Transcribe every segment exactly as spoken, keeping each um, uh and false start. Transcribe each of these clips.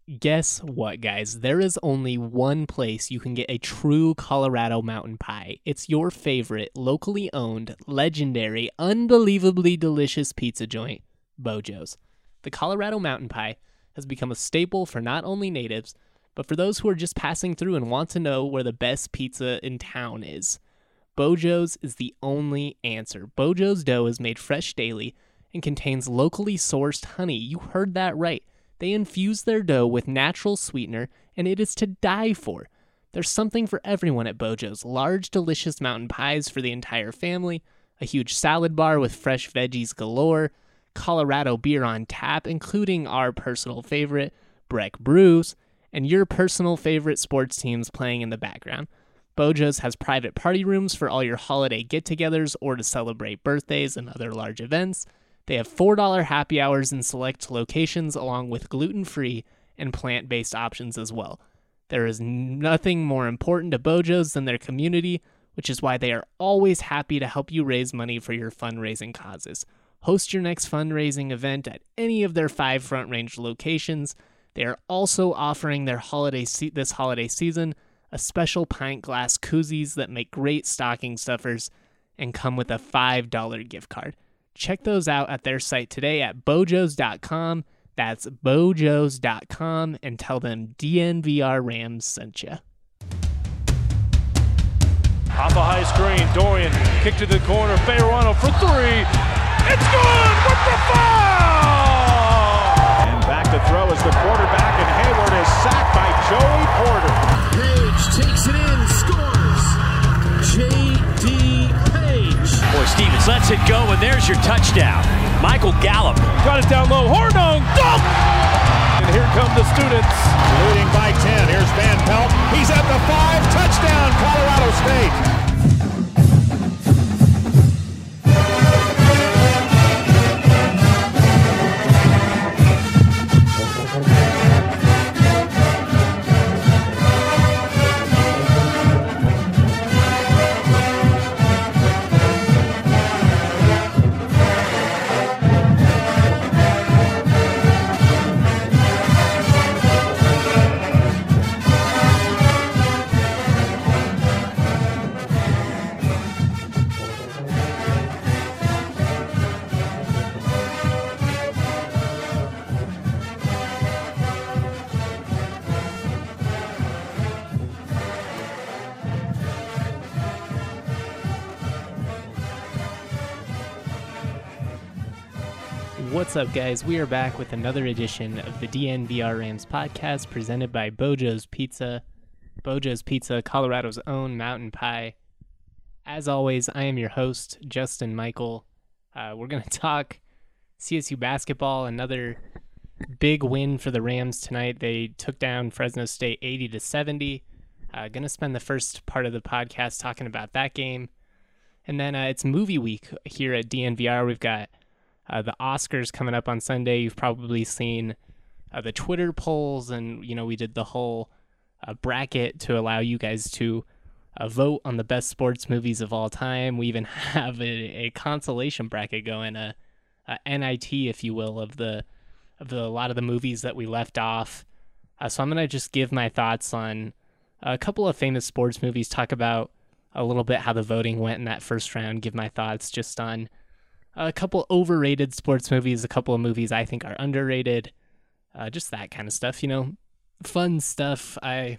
Guess what, guys? There is only one place you can get a true Colorado mountain pie. It's your favorite, locally owned, legendary, unbelievably delicious pizza joint, Bojo's. The Colorado mountain pie has become a staple for not only natives, but for those who are just passing through and want to know where the best pizza in town is. Bojo's is the only answer. Bojo's dough is made fresh daily and contains locally sourced honey. You heard that right. They infuse their dough with natural sweetener, and it is to die for. There's something for everyone at Bojo's. Large, delicious mountain pies for the entire family, a huge salad bar with fresh veggies galore, Colorado beer on tap, including our personal favorite, Breck Brews, and your personal favorite sports teams playing in the background. Bojo's has private party rooms for all your holiday get-togethers or to celebrate birthdays and other large events. They have four dollars happy hours in select locations along with gluten-free and plant-based options as well. There is nothing more important to Bojo's than their community, which is why they are always happy to help you raise money for your fundraising causes. Host your next fundraising event at any of their five Front Range locations. They are also offering their holiday se- this holiday season a special pint glass koozies that make great stocking stuffers and come with a five dollars gift card. Check those out at their site today at bojos dot com. That's bojos dot com, and tell them D N V R Rams sent you. Off a high screen, Dorian kick to the corner, Fayerano for three. It's good with the foul! And back to throw is the quarterback, and Hayward is sacked by Joey Porter. Page takes it in, scores. J D Page. Boy, Stevens lets it go, and there's your touchdown. Michael Gallup. Got it down low, Hornung, dunk! And here come the students. Leading by ten, here's Van Pelt. He's at the five, touchdown, Colorado State. What's up, guys? We are back with another edition of the D N V R Rams podcast presented by Bojo's Pizza. Bojo's Pizza, Colorado's own mountain pie. As always, I am your host, Justin Michael. Uh, we're going to talk C S U basketball, another big win for the Rams tonight. They took down Fresno State eighty to seventy. Uh, going to spend the first part of the podcast talking about that game. And then uh, it's movie week here at D N V R. We've got Uh, the Oscars coming up on Sunday. You've probably seen uh, the Twitter polls, and you know we did the whole uh, bracket to allow you guys to uh, vote on the best sports movies of all time. We even have a, a consolation bracket going, a, a N I T, if you will, of the of the a lot of the movies that we left off. Uh, so I'm gonna just give my thoughts on a couple of famous sports movies. Talk about a little bit how the voting went in that first round. Give my thoughts just on a couple overrated sports movies, a couple of movies I think are underrated, uh, just that kind of stuff, you know, fun stuff. I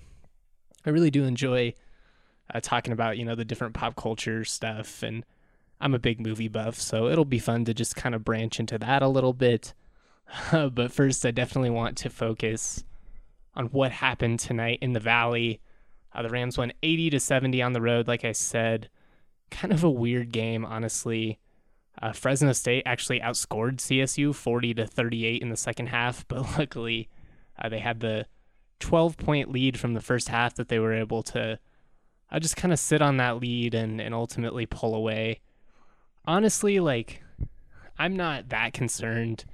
I really do enjoy uh, talking about, you know, the different pop culture stuff, and I'm a big movie buff, so it'll be fun to just kind of branch into that a little bit. Uh, but first, I definitely want to focus on what happened tonight in the Valley. Uh, the Rams won eighty to seventy on the road, like I said. Kind of a weird game, honestly. Uh, Fresno State actually outscored C S U forty to thirty-eight in the second half, but luckily uh, they had the twelve-point lead from the first half that they were able to uh, just kind of sit on that lead and, and ultimately pull away. Honestly, like, I'm not that concerned.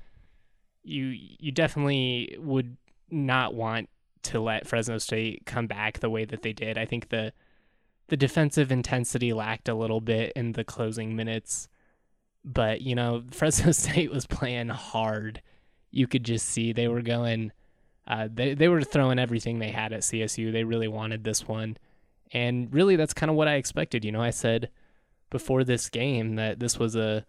You you definitely would not want to let Fresno State come back the way that they did. I think the the defensive intensity lacked a little bit in the closing minutes. But, you know, Fresno State was playing hard. You could just see they were going Uh, they, they were throwing everything they had at C S U. They really wanted this one. And really, that's kind of what I expected. You know, I said before this game that this was a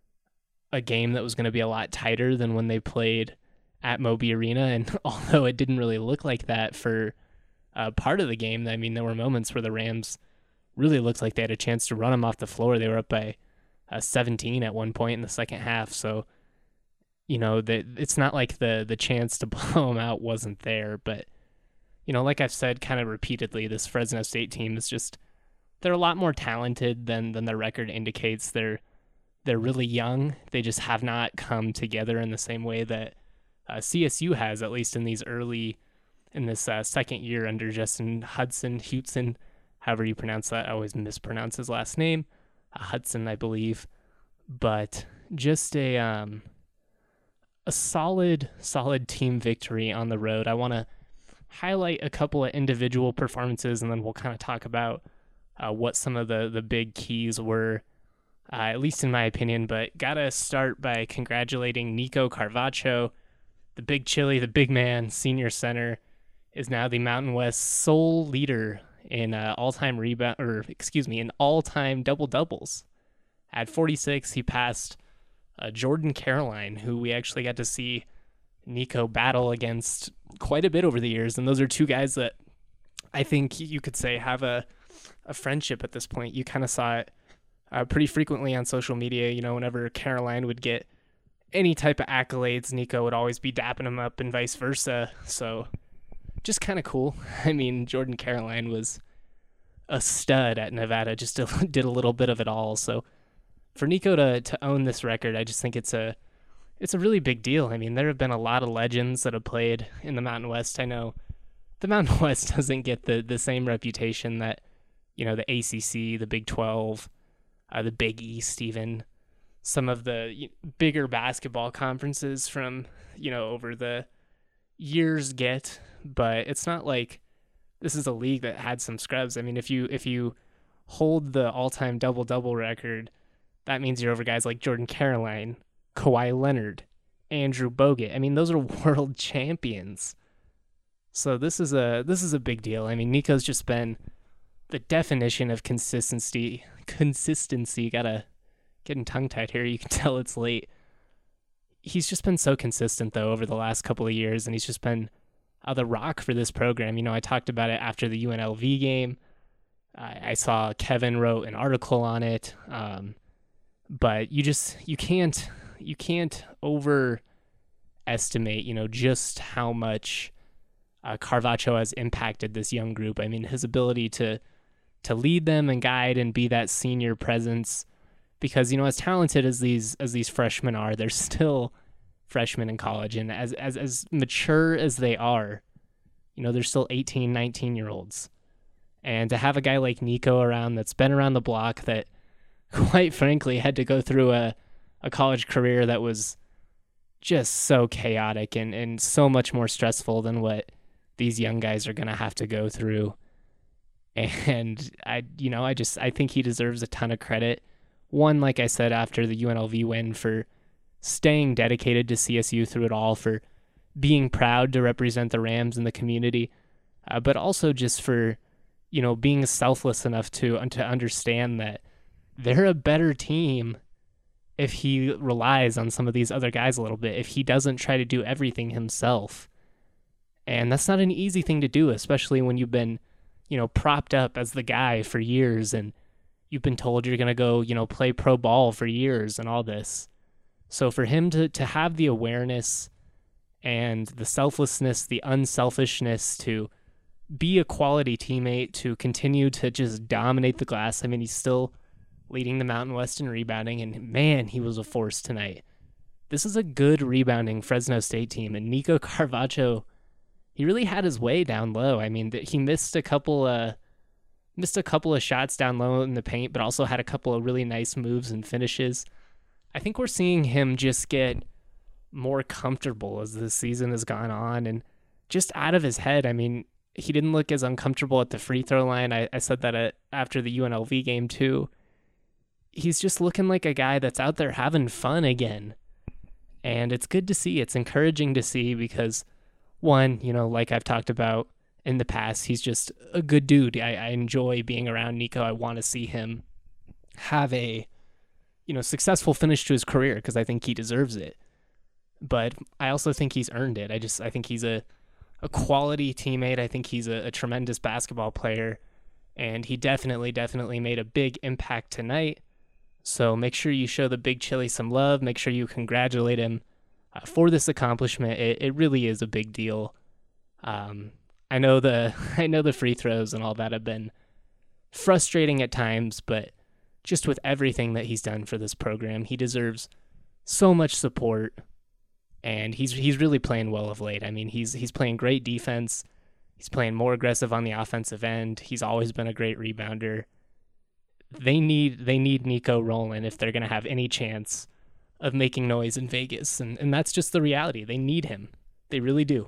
a game that was going to be a lot tighter than when they played at Moby Arena. And although it didn't really look like that for uh, part of the game, I mean, there were moments where the Rams really looked like they had a chance to run them off the floor. They were up by uh, seventeen at one point in the second half. So, you know, the, it's not like the the chance to blow them out wasn't there. But, you know, like I've said kind of repeatedly, this Fresno State team is just, they're a lot more talented than than their record indicates. They're they're really young. They just have not come together in the same way that uh, C S U has, at least in these early, in this uh, second year under Justin Hudson, Hudson, however you pronounce that. I always mispronounce his last name. Uh, Hudson, I believe. But just a um, a solid, solid team victory on the road. I want to highlight a couple of individual performances, and then we'll kind of talk about uh, what some of the, the big keys were, uh, at least in my opinion. But gotta start by congratulating Nico Carvacho, the big chili, the big man, senior center, is now the Mountain West sole leader in uh, all-time rebound, or excuse me, in all-time double-doubles. At forty-six, he passed uh, Jordan Caroline, who we actually got to see Nico battle against quite a bit over the years. And those are two guys that I think you could say have a, a friendship at this point. You kind of saw it uh, pretty frequently on social media. You know, whenever Caroline would get any type of accolades, Nico would always be dapping him up and vice versa. So just kind of cool. I mean, Jordan Caroline was a stud at Nevada, just did a little bit of it all. So for Nico to, to own this record, I just think it's a It's a really big deal. I mean, there have been a lot of legends that have played in the Mountain West. I know the Mountain West doesn't get the, the same reputation that, you know, the A C C, the Big twelve, uh, the Big East, even some of the bigger basketball conferences from, you know, over the years get. But it's not like this is a league that had some scrubs. I mean, if you if you hold the all-time double-double record, that means you're over guys like Jordan Caroline, Kawhi Leonard, Andrew Bogut. I mean, those are world champions. So this is a this is a big deal. I mean, Nico's just been the definition of consistency. Consistency. Gotta getting tongue-tied here. You can tell it's late. He's just been so consistent, though, over the last couple of years, and he's just been uh, the rock for this program. You know, I talked about it after the U N L V game. I, I saw Kevin wrote an article on it. Um, but you just, you can't... You can't overestimate, you know, just how much uh, Carvacho has impacted this young group. I mean, his ability to to lead them and guide and be that senior presence, because, you know, as talented as these as these freshmen are, they're still freshmen in college, and as as as mature as they are, you know, they're still eighteen, nineteen year olds. And to have a guy like Nico around that's been around the block, that quite frankly had to go through a a college career that was just so chaotic and, and so much more stressful than what these young guys are going to have to go through. And I, you know, I just, I think he deserves a ton of credit. One, like I said, after the U N L V win, for staying dedicated to C S U through it all, for being proud to represent the Rams in the community, uh, but also just for, you know, being selfless enough to, to understand that they're a better team if he relies on some of these other guys a little bit, if he doesn't try to do everything himself. And that's not an easy thing to do, especially when you've been, you know, propped up as the guy for years, and you've been told you're going to go, you know, play pro ball for years and all this. So for him to, to have the awareness and the selflessness, the unselfishness to be a quality teammate, to continue to just dominate the glass. I mean, he's still leading the Mountain West in rebounding, and man, he was a force tonight. This is a good rebounding Fresno State team, and Nico Carvacho, he really had his way down low. I mean, he missed a couple uh, missed a couple of shots down low in the paint, but also had a couple of really nice moves and finishes. I think we're seeing him just get more comfortable as the season has gone on, and just out of his head. I mean, he didn't look as uncomfortable at the free throw line. I, I said that at, after the U N L V game too. He's just looking like a guy that's out there having fun again. And it's good to see. It's encouraging to see, because one, you know, like I've talked about in the past, he's just a good dude. I, I enjoy being around Nico. I want to see him have a, you know, successful finish to his career because I think he deserves it. But I also think he's earned it. I just, I think he's a, a quality teammate. I think he's a, a tremendous basketball player, and he definitely, definitely made a big impact tonight. So make sure you show the Big Chili some love. Make sure you congratulate him uh, for this accomplishment. It, it really is a big deal. Um, I know the, I know the free throws and all that have been frustrating at times, but just with everything that he's done for this program, he deserves so much support. And he's he's really playing well of late. I mean, he's he's playing great defense. He's playing more aggressive on the offensive end. He's always been a great rebounder. They need they need Nico rolling if they're going to have any chance of making noise in Vegas. And, and that's just the reality. They need him. They really do.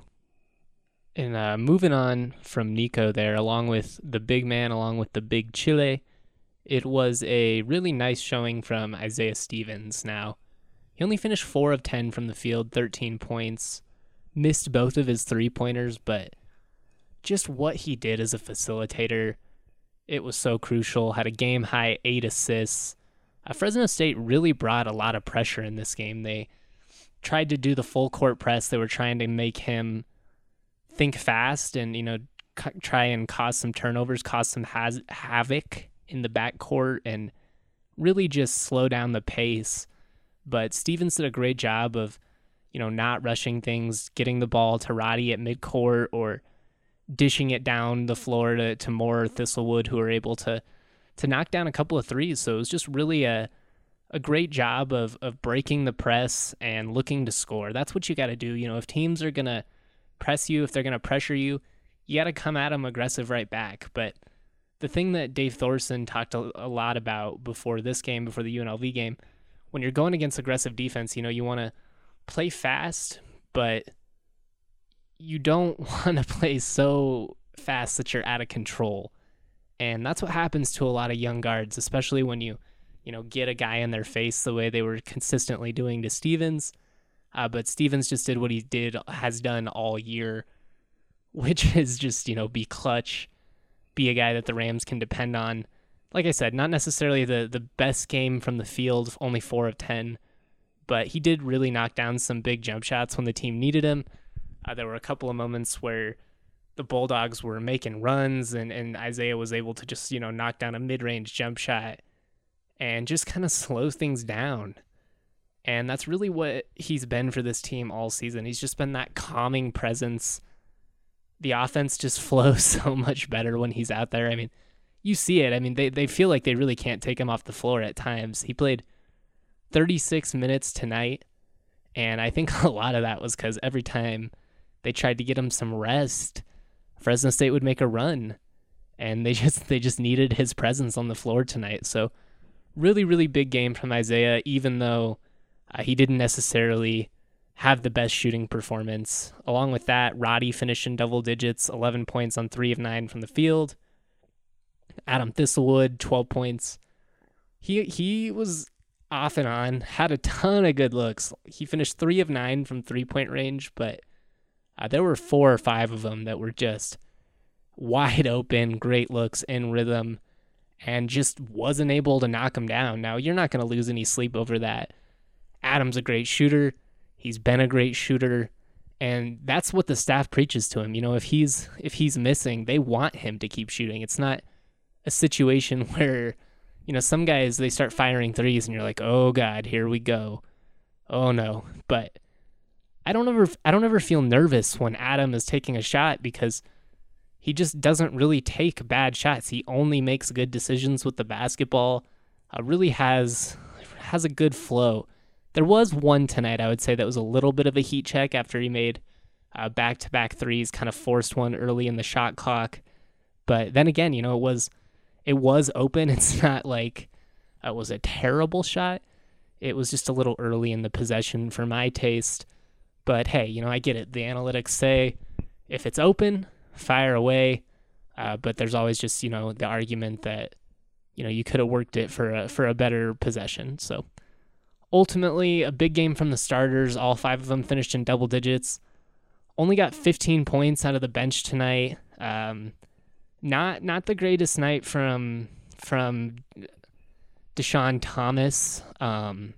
And uh, moving on from Nico there, along with the big man, along with the Big Chile, it was a really nice showing from Isaiah Stevens now. He only finished four of ten from the field, thirteen points, missed both of his three-pointers, but just what he did as a facilitator, it was so crucial. Had a game-high eight assists. Uh, Fresno State really brought a lot of pressure in this game. They tried to do the full-court press. They were trying to make him think fast and, you know, c- try and cause some turnovers, cause some has- havoc in the backcourt, and really just slow down the pace. But Stevens did a great job of, you know, not rushing things, getting the ball to Roddy at midcourt or dishing it down the floor to, to Moore or Thistlewood, who were able to to knock down a couple of threes. So it was just really a a great job of of breaking the press and looking to score. That's what you got to do. You know, if teams are going to press you, if they're going to pressure you, you got to come at them aggressive right back. But the thing that Dave Thorson talked a, a lot about before this game, before the U N L V game, when you're going against aggressive defense, you know, you want to play fast, but you don't want to play so fast that you're out of control. And that's what happens to a lot of young guards, especially when you, you know, get a guy in their face the way they were consistently doing to Stevens. Uh, but Stevens just did what he did, has done all year, which is just, you know, be clutch, be a guy that the Rams can depend on. Like I said, not necessarily the, the best game from the field, only four of ten, but he did really knock down some big jump shots when the team needed him. Uh, there were a couple of moments where the Bulldogs were making runs and, and Isaiah was able to just, you know, knock down a mid-range jump shot and just kind of slow things down. And that's really what he's been for this team all season. He's just been that calming presence. The offense just flows so much better when he's out there. I mean, you see it. I mean, they, they feel like they really can't take him off the floor at times. He played thirty-six minutes tonight, and I think a lot of that was because every time they tried to get him some rest, Fresno State would make a run, and they just they just needed his presence on the floor tonight. So really, really big game from Isaiah, even though uh, he didn't necessarily have the best shooting performance. Along with that, Roddy finished in double digits, eleven points on three of nine from the field. Adam Thistlewood, twelve points. He he was off and on, had a ton of good looks. He finished three of nine from three-point range, but uh, there were four or five of them that were just wide open, great looks, in rhythm, and just wasn't able to knock him down. Now, you're not going to lose any sleep over that. Adam's a great shooter. He's been a great shooter, and that's what the staff preaches to him. You know, if he's if he's missing, they want him to keep shooting. It's not a situation where, you know, some guys, they start firing threes and you're like, oh God, here we go. Oh no. But I don't ever, I don't ever feel nervous when Adam is taking a shot because he just doesn't really take bad shots. He only makes good decisions with the basketball. Uh, really has, has a good flow. There was one tonight, I would say, that was a little bit of a heat check after he made uh, back-to-back threes, kind of forced one early in the shot clock. But then again, you know, it was, It was open. It's not like it was a terrible shot. It was just a little early in the possession for my taste. But hey, you know, I get it. The analytics say if it's open, fire away. Uh, but there's always just, you know, the argument that, you know, you could have worked it for a, for a better possession. So ultimately, a big game from the starters. All five of them finished in double digits. only got fifteen points out of the bench tonight. Um, not not the greatest night from from Deshaun Thomas. Um,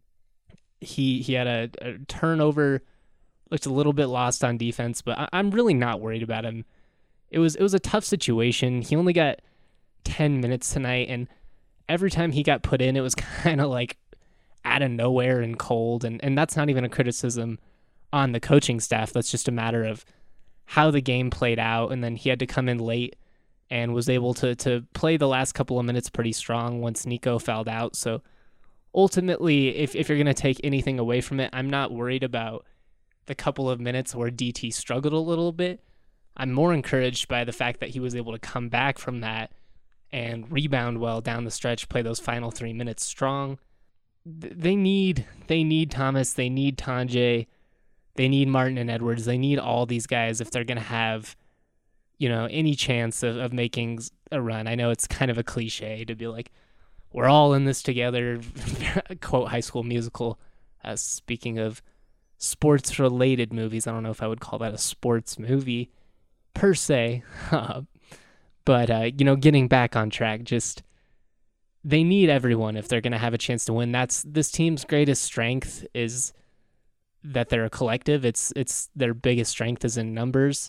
he he had a, a turnover, looked a little bit lost on defense, but I, I'm really not worried about him. It was it was a tough situation. He only got ten minutes tonight, and every time he got put in, it was kind of like out of nowhere and cold, and, and that's not even a criticism on the coaching staff. That's just a matter of how the game played out, and then he had to come in late and was able to to play the last couple of minutes pretty strong once Nico fouled out. So ultimately, if, if you're going to take anything away from it, I'm not worried about the couple of minutes where D T struggled a little bit. I'm more encouraged by the fact that he was able to come back from that and rebound well down the stretch, play those final three minutes strong. They need they need Thomas, they need Tonje, they need Martin and Edwards, they need all these guys if they're going to have, you know, any chance of, of making a run. I know it's kind of a cliche to be like, we're all in this together, quote High School Musical. Uh, speaking of sports-related movies, I don't know if I would call that a sports movie per se, uh, but, uh, you know, getting back on track, just they need everyone if they're going to have a chance to win. That's this team's greatest strength is that they're a collective. It's it's their biggest strength is in numbers,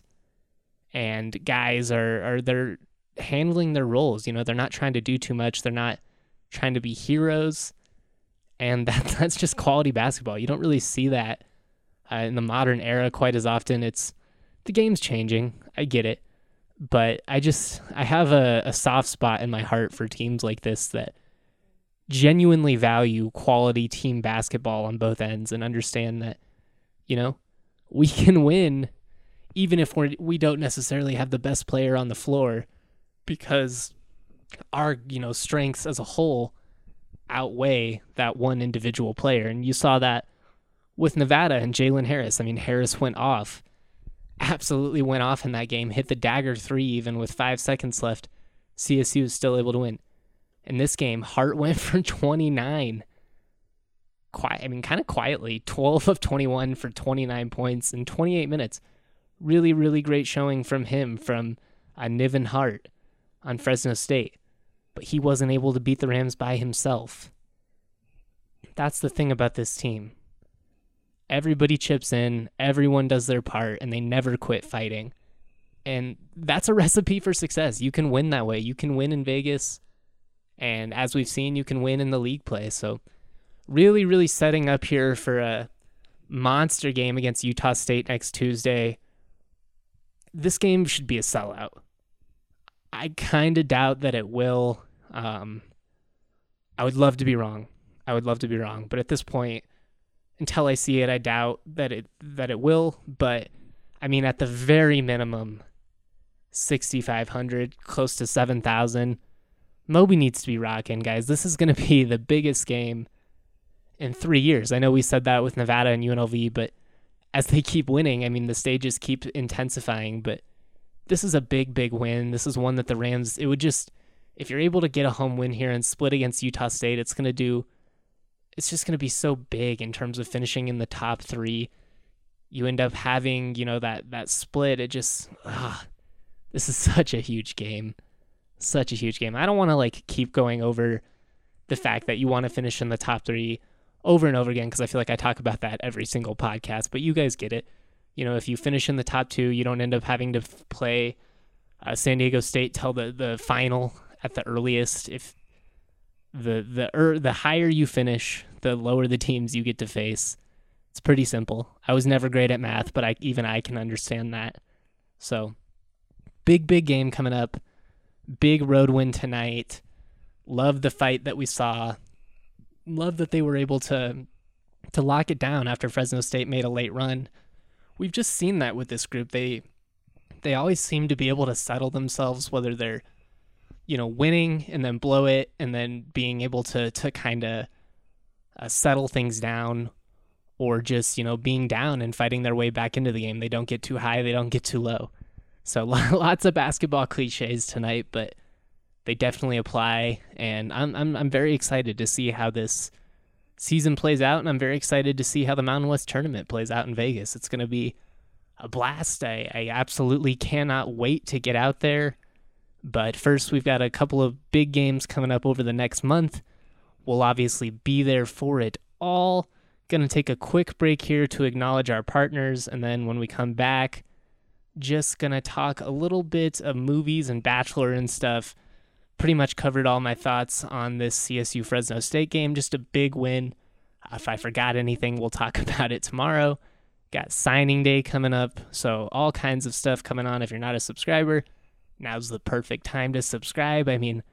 and guys are are they're handling their roles. You know, they're not trying to do too much. They're not trying to be heroes, and that that's just quality basketball. You don't really see that uh, in the modern era quite as often. It's the game's changing. I get it. But I just, I have a, a soft spot in my heart for teams like this that genuinely value quality team basketball on both ends and understand that, you know, we can win even if we're, we don't necessarily have the best player on the floor because our, you know, strengths as a whole outweigh that one individual player. And you saw that with Nevada and Jalen Harris. I mean, Harris went off. Absolutely went off in that game, hit the dagger three even with five seconds left. C S U was still able to win. In this game, Hart went for twenty-nine. Quiet, I mean, kind of quietly, twelve of twenty-one for twenty-nine points in twenty-eight minutes. Really, really great showing from him, from uh, Niven Hart on Fresno State. But he wasn't able to beat the Rams by himself. That's the thing about this team. Everybody chips in, everyone does their part, and they never quit fighting. And that's a recipe for success. You can win that way. You can win in Vegas, and as we've seen, you can win in the league play. So really, really setting up here for a monster game against Utah State next Tuesday. This game should be a sellout. I kind of doubt that it will. Um, I would love to be wrong. I would love to be wrong. But at this point, until I see it, I doubt that it that it will. But, I mean, at the very minimum, sixty-five hundred, close to seven thousand. Moby needs to be rocking, guys. This is going to be the biggest game in three years. I know we said that with Nevada and U N L V, but as they keep winning, I mean, the stages keep intensifying. But this is a big, big win. This is one that the Rams, it would just, if you're able to get a home win here and split against Utah State, it's going to do... It's just going to be so big in terms of finishing in the top three. You end up having, you know, that, that split. It just, ah, this is such a huge game. Such a huge game. I don't want to like keep going over the fact that you want to finish in the top three over and over again, because I feel like I talk about that every single podcast, but you guys get it. You know, if you finish in the top two, you don't end up having to f- play uh, San Diego State till the, the final at the earliest. If The the er, the higher you finish, the lower the teams you get to face. It's pretty simple. I was never great at math, but I even I can understand that. So, big, big game coming up. Big road win tonight. Love the fight that we saw. Love that they were able to to lock it down after Fresno State made a late run. We've just seen that with this group. They they always seem to be able to settle themselves, whether they're you know, winning and then blow it and then being able to to kind of uh, settle things down, or just, you know, being down and fighting their way back into the game. They don't get too high, they don't get too low. So lots of basketball cliches tonight, but they definitely apply, and I'm I'm I'm very excited to see how this season plays out, and I'm very excited to see how the Mountain West tournament plays out in Vegas. It's going to be a blast. I, I absolutely cannot wait to get out there. But first, we've got a couple of big games coming up over the next month. We'll obviously be there for it all. Going to take a quick break here to acknowledge our partners, and then when we come back, just going to talk a little bit of movies and Bachelor and stuff. Pretty much covered all my thoughts on this C S U Fresno State game. Just a big win. If I forgot anything, we'll talk about it tomorrow. Got signing day coming up, so all kinds of stuff coming on. If you're not a subscriber, now's the perfect time to subscribe. I mean,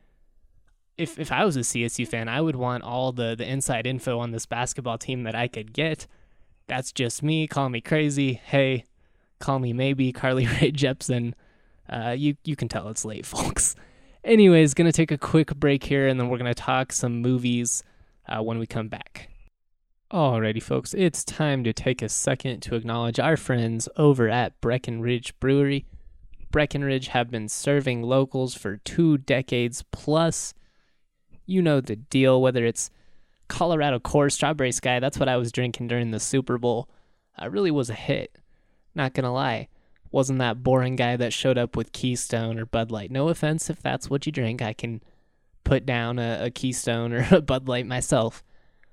if if I was a C S U fan, I would want all the, the inside info on this basketball team that I could get. That's just me. Call me crazy. Hey, call me maybe Carly Rae Jepsen. Uh, you, you can tell it's late, folks. Anyways, going to take a quick break here, and then we're going to talk some movies uh, when we come back. Alrighty, folks, it's time to take a second to acknowledge our friends over at Breckenridge Brewery. Breckenridge have been serving locals for two decades plus. You know the deal, whether it's Colorado Core Strawberry Sky, that's what I was drinking during the Super Bowl. It really was a hit. Not gonna lie. Wasn't that boring guy that showed up with Keystone or Bud Light. No offense if that's what you drink. I can put down a, a Keystone or a Bud Light myself.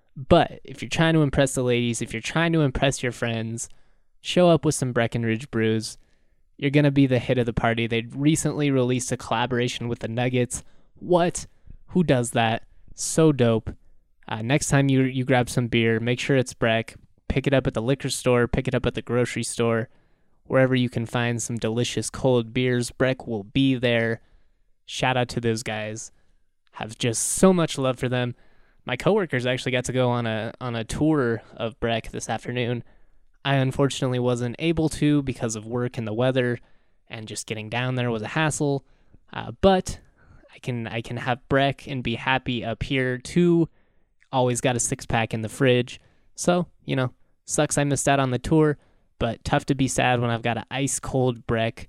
But if you're trying to impress the ladies, if you're trying to impress your friends, show up with some Breckenridge brews. You're going to be the hit of the party. They recently released a collaboration with the Nuggets. What? Who does that? So dope. Uh, next time you you grab some beer, make sure it's Breck. Pick it up at the liquor store. Pick it up at the grocery store. Wherever you can find some delicious cold beers, Breck will be there. Shout out to those guys. Have just so much love for them. My coworkers actually got to go on a on a tour of Breck this afternoon. I unfortunately wasn't able to because of work and the weather, and just getting down there was a hassle. Uh, but I can I can have Breck and be happy up here too. Always got a six pack in the fridge. So, you know, sucks I missed out on the tour, but tough to be sad when I've got an ice cold Breck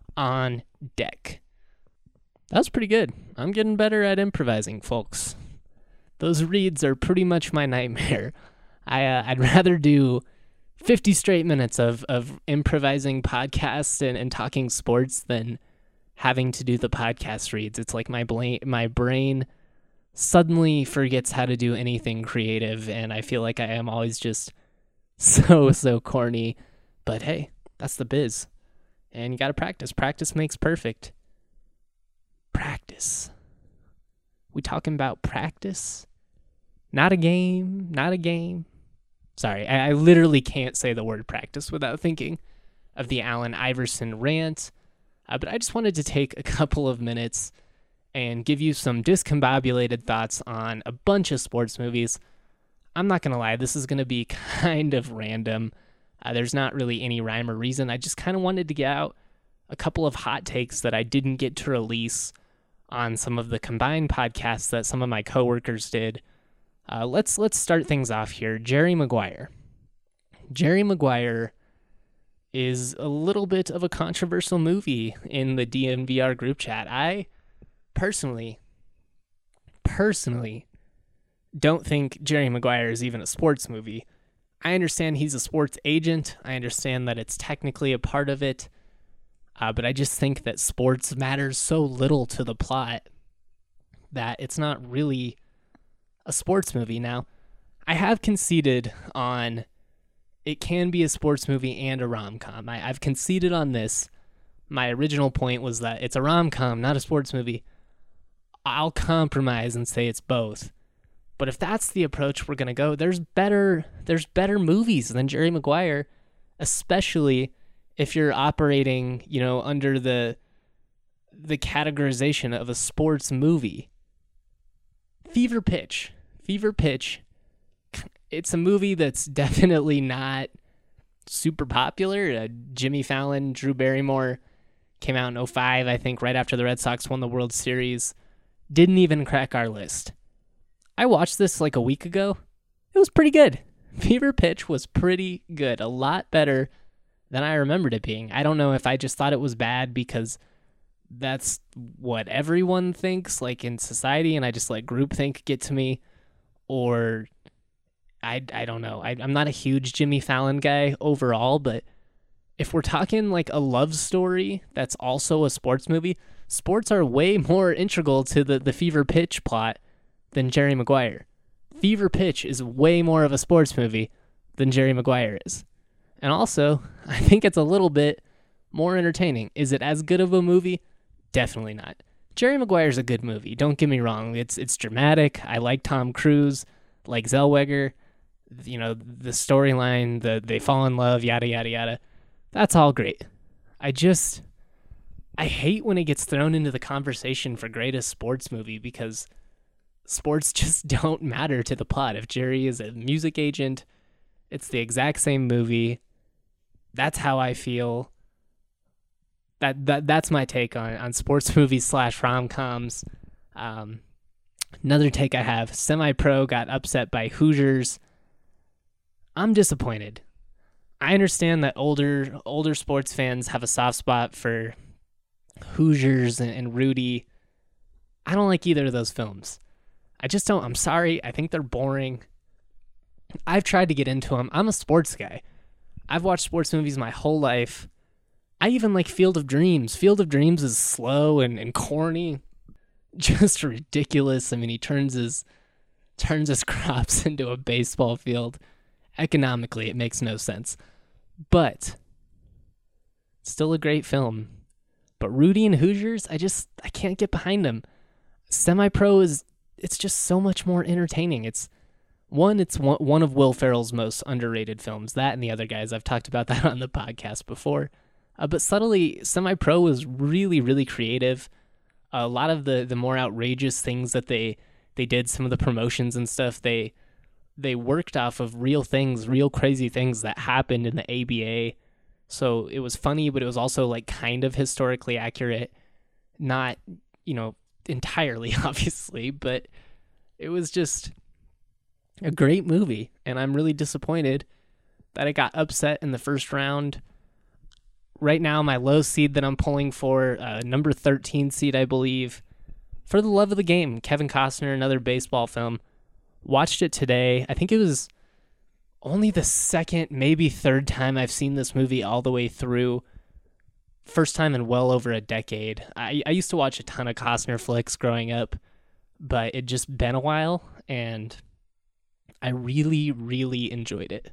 on deck. That was pretty good. I'm getting better at improvising, folks. Those reads are pretty much my nightmare. I uh, I'd rather do fifty straight minutes of, of improvising podcasts and, and talking sports than having to do the podcast reads. It's like my brain, my brain suddenly forgets how to do anything creative, and I feel like I am always just so, so corny. But hey, that's the biz. And you got to practice. Practice makes perfect. Practice. We talking about practice? Not a game, not a game. Sorry, I, I literally can't say the word practice without thinking of the Allen Iverson rant. Uh, but I just wanted to take a couple of minutes and give you some discombobulated thoughts on a bunch of sports movies. I'm not going to lie, this is going to be kind of random. Uh, there's not really any rhyme or reason. I just kind of wanted to get out a couple of hot takes that I didn't get to release on some of the combined podcasts that some of my coworkers did. Uh, let's let's start things off here. Jerry Maguire. Jerry Maguire is a little bit of a controversial movie in the D N V R group chat. I personally, personally don't think Jerry Maguire is even a sports movie. I understand he's a sports agent. I understand that it's technically a part of it. Uh, but I just think that sports matters so little to the plot that it's not really a sports movie. Now, I have conceded on it can be a sports movie and a rom-com. I, I've conceded on this. My original point was that it's a rom-com, not a sports movie. I'll compromise and say it's both. But if that's the approach we're going to go, there's better there's better movies than Jerry Maguire, especially if you're operating, you know, under the the categorization of a sports movie. Fever Pitch. Fever Pitch. It's a movie that's definitely not super popular. Uh, Jimmy Fallon, Drew Barrymore came out in oh five, I think, right after the Red Sox won the World Series. Didn't even crack our list. I watched this like a week ago. It was pretty good. Fever Pitch was pretty good. A lot better than I remembered it being. I don't know if I just thought it was bad because that's what everyone thinks, like in society, and I just let groupthink get to me, or I, I don't know. I, I'm not a huge Jimmy Fallon guy overall, but if we're talking like a love story that's also a sports movie, sports are way more integral to the, the Fever Pitch plot than Jerry Maguire. Fever Pitch is way more of a sports movie than Jerry Maguire is. And also, I think it's a little bit more entertaining. Is it as good of a movie? Definitely not. Jerry Maguire's a good movie, don't get me wrong. It's it's dramatic. I like Tom Cruise, like Zellweger. You know, the storyline, the they fall in love, yada, yada, yada. That's all great. I just, I hate when it gets thrown into the conversation for greatest sports movie because sports just don't matter to the plot. If Jerry is a music agent, it's the exact same movie. That's how I feel. That that that's my take on, on sports movies slash rom-coms. Um, another take I have, Semi-Pro got upset by Hoosiers. I'm disappointed. I understand that older older sports fans have a soft spot for Hoosiers and, and Rudy. I don't like either of those films. I just don't. I'm sorry. I think they're boring. I've tried to get into them. I'm a sports guy. I've watched sports movies my whole life. I even like Field of Dreams. Field of Dreams is slow and, and corny. Just ridiculous. I mean, he turns his turns his crops into a baseball field. Economically, it makes no sense. But still a great film. But Rudy and Hoosiers, I just I can't get behind them. Semi-Pro is it's just so much more entertaining. It's one, it's one, one of Will Ferrell's most underrated films. That and The Other Guys. I've talked about that on the podcast before. Uh, but subtly, Semi-Pro was really, really creative. A lot of the, the more outrageous things that they they did, some of the promotions and stuff, they they worked off of real things, real crazy things that happened in the A B A. So it was funny, but it was also like kind of historically accurate. Not, you know, entirely, obviously, but it was just a great movie. And I'm really disappointed that it got upset in the first round. Right now, my low seed that I'm pulling for, uh, number thirteen seed, I believe, For the Love of the Game, Kevin Costner, another baseball film. Watched it today. I think it was only the second, maybe third time I've seen this movie all the way through. First time in well over a decade. I, I used to watch a ton of Costner flicks growing up, but it just been a while, and I really, really enjoyed it.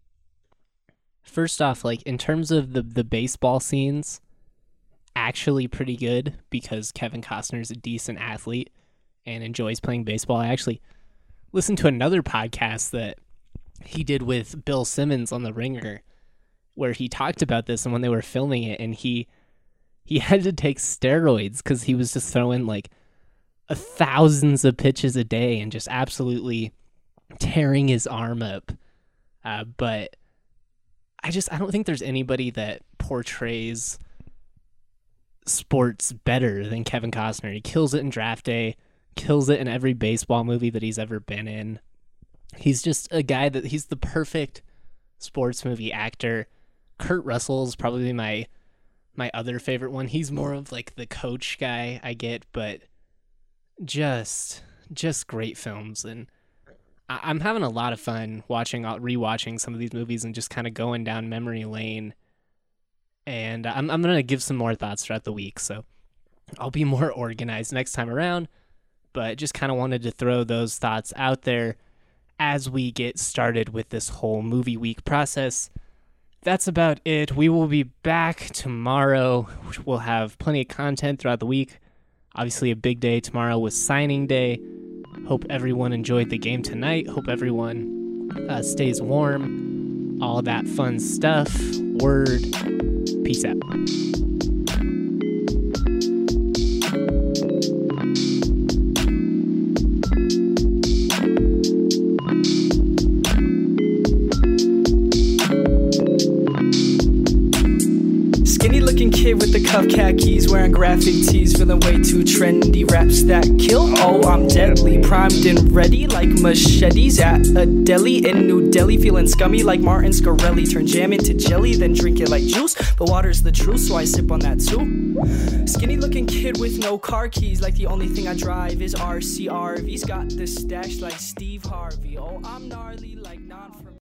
First off, like in terms of the, the baseball scenes, actually pretty good because Kevin Costner's a decent athlete and enjoys playing baseball. I actually listened to another podcast that he did with Bill Simmons on The Ringer where he talked about this and when they were filming it, and he he had to take steroids because he was just throwing like a thousands of pitches a day and just absolutely tearing his arm up. Uh, but I just I don't think there's anybody that portrays sports better than Kevin Costner. He kills it in Draft Day, kills it in every baseball movie that he's ever been in. He's just a guy that he's the perfect sports movie actor. Kurt Russell's probably my my other favorite one. He's more of like the coach guy I get, but just just great films. And I, I'm having a lot of fun watching, rewatching some of these movies and just kind of going down memory lane. And I'm I'm gonna give some more thoughts throughout the week, so I'll be more organized next time around. But just kind of wanted to throw those thoughts out there as we get started with this whole movie week process. That's about it. We will be back tomorrow. We'll have plenty of content throughout the week. Obviously a big day tomorrow with signing day. Hope everyone enjoyed the game tonight. Hope everyone uh, stays warm. All that fun stuff. Word. Peace out. Kid with the cuff khakis, wearing graphic tees, feeling way too trendy. Raps that kill, oh I'm deadly, primed and ready like machetes at a deli in New Delhi. Feeling scummy like Martin Scarelli, turn jam into jelly, then drink it like juice. But water's the truth, so I sip on that too. Skinny looking kid with no car keys, like the only thing I drive is R C R V's. Got the stash like Steve Harvey, oh I'm gnarly like non from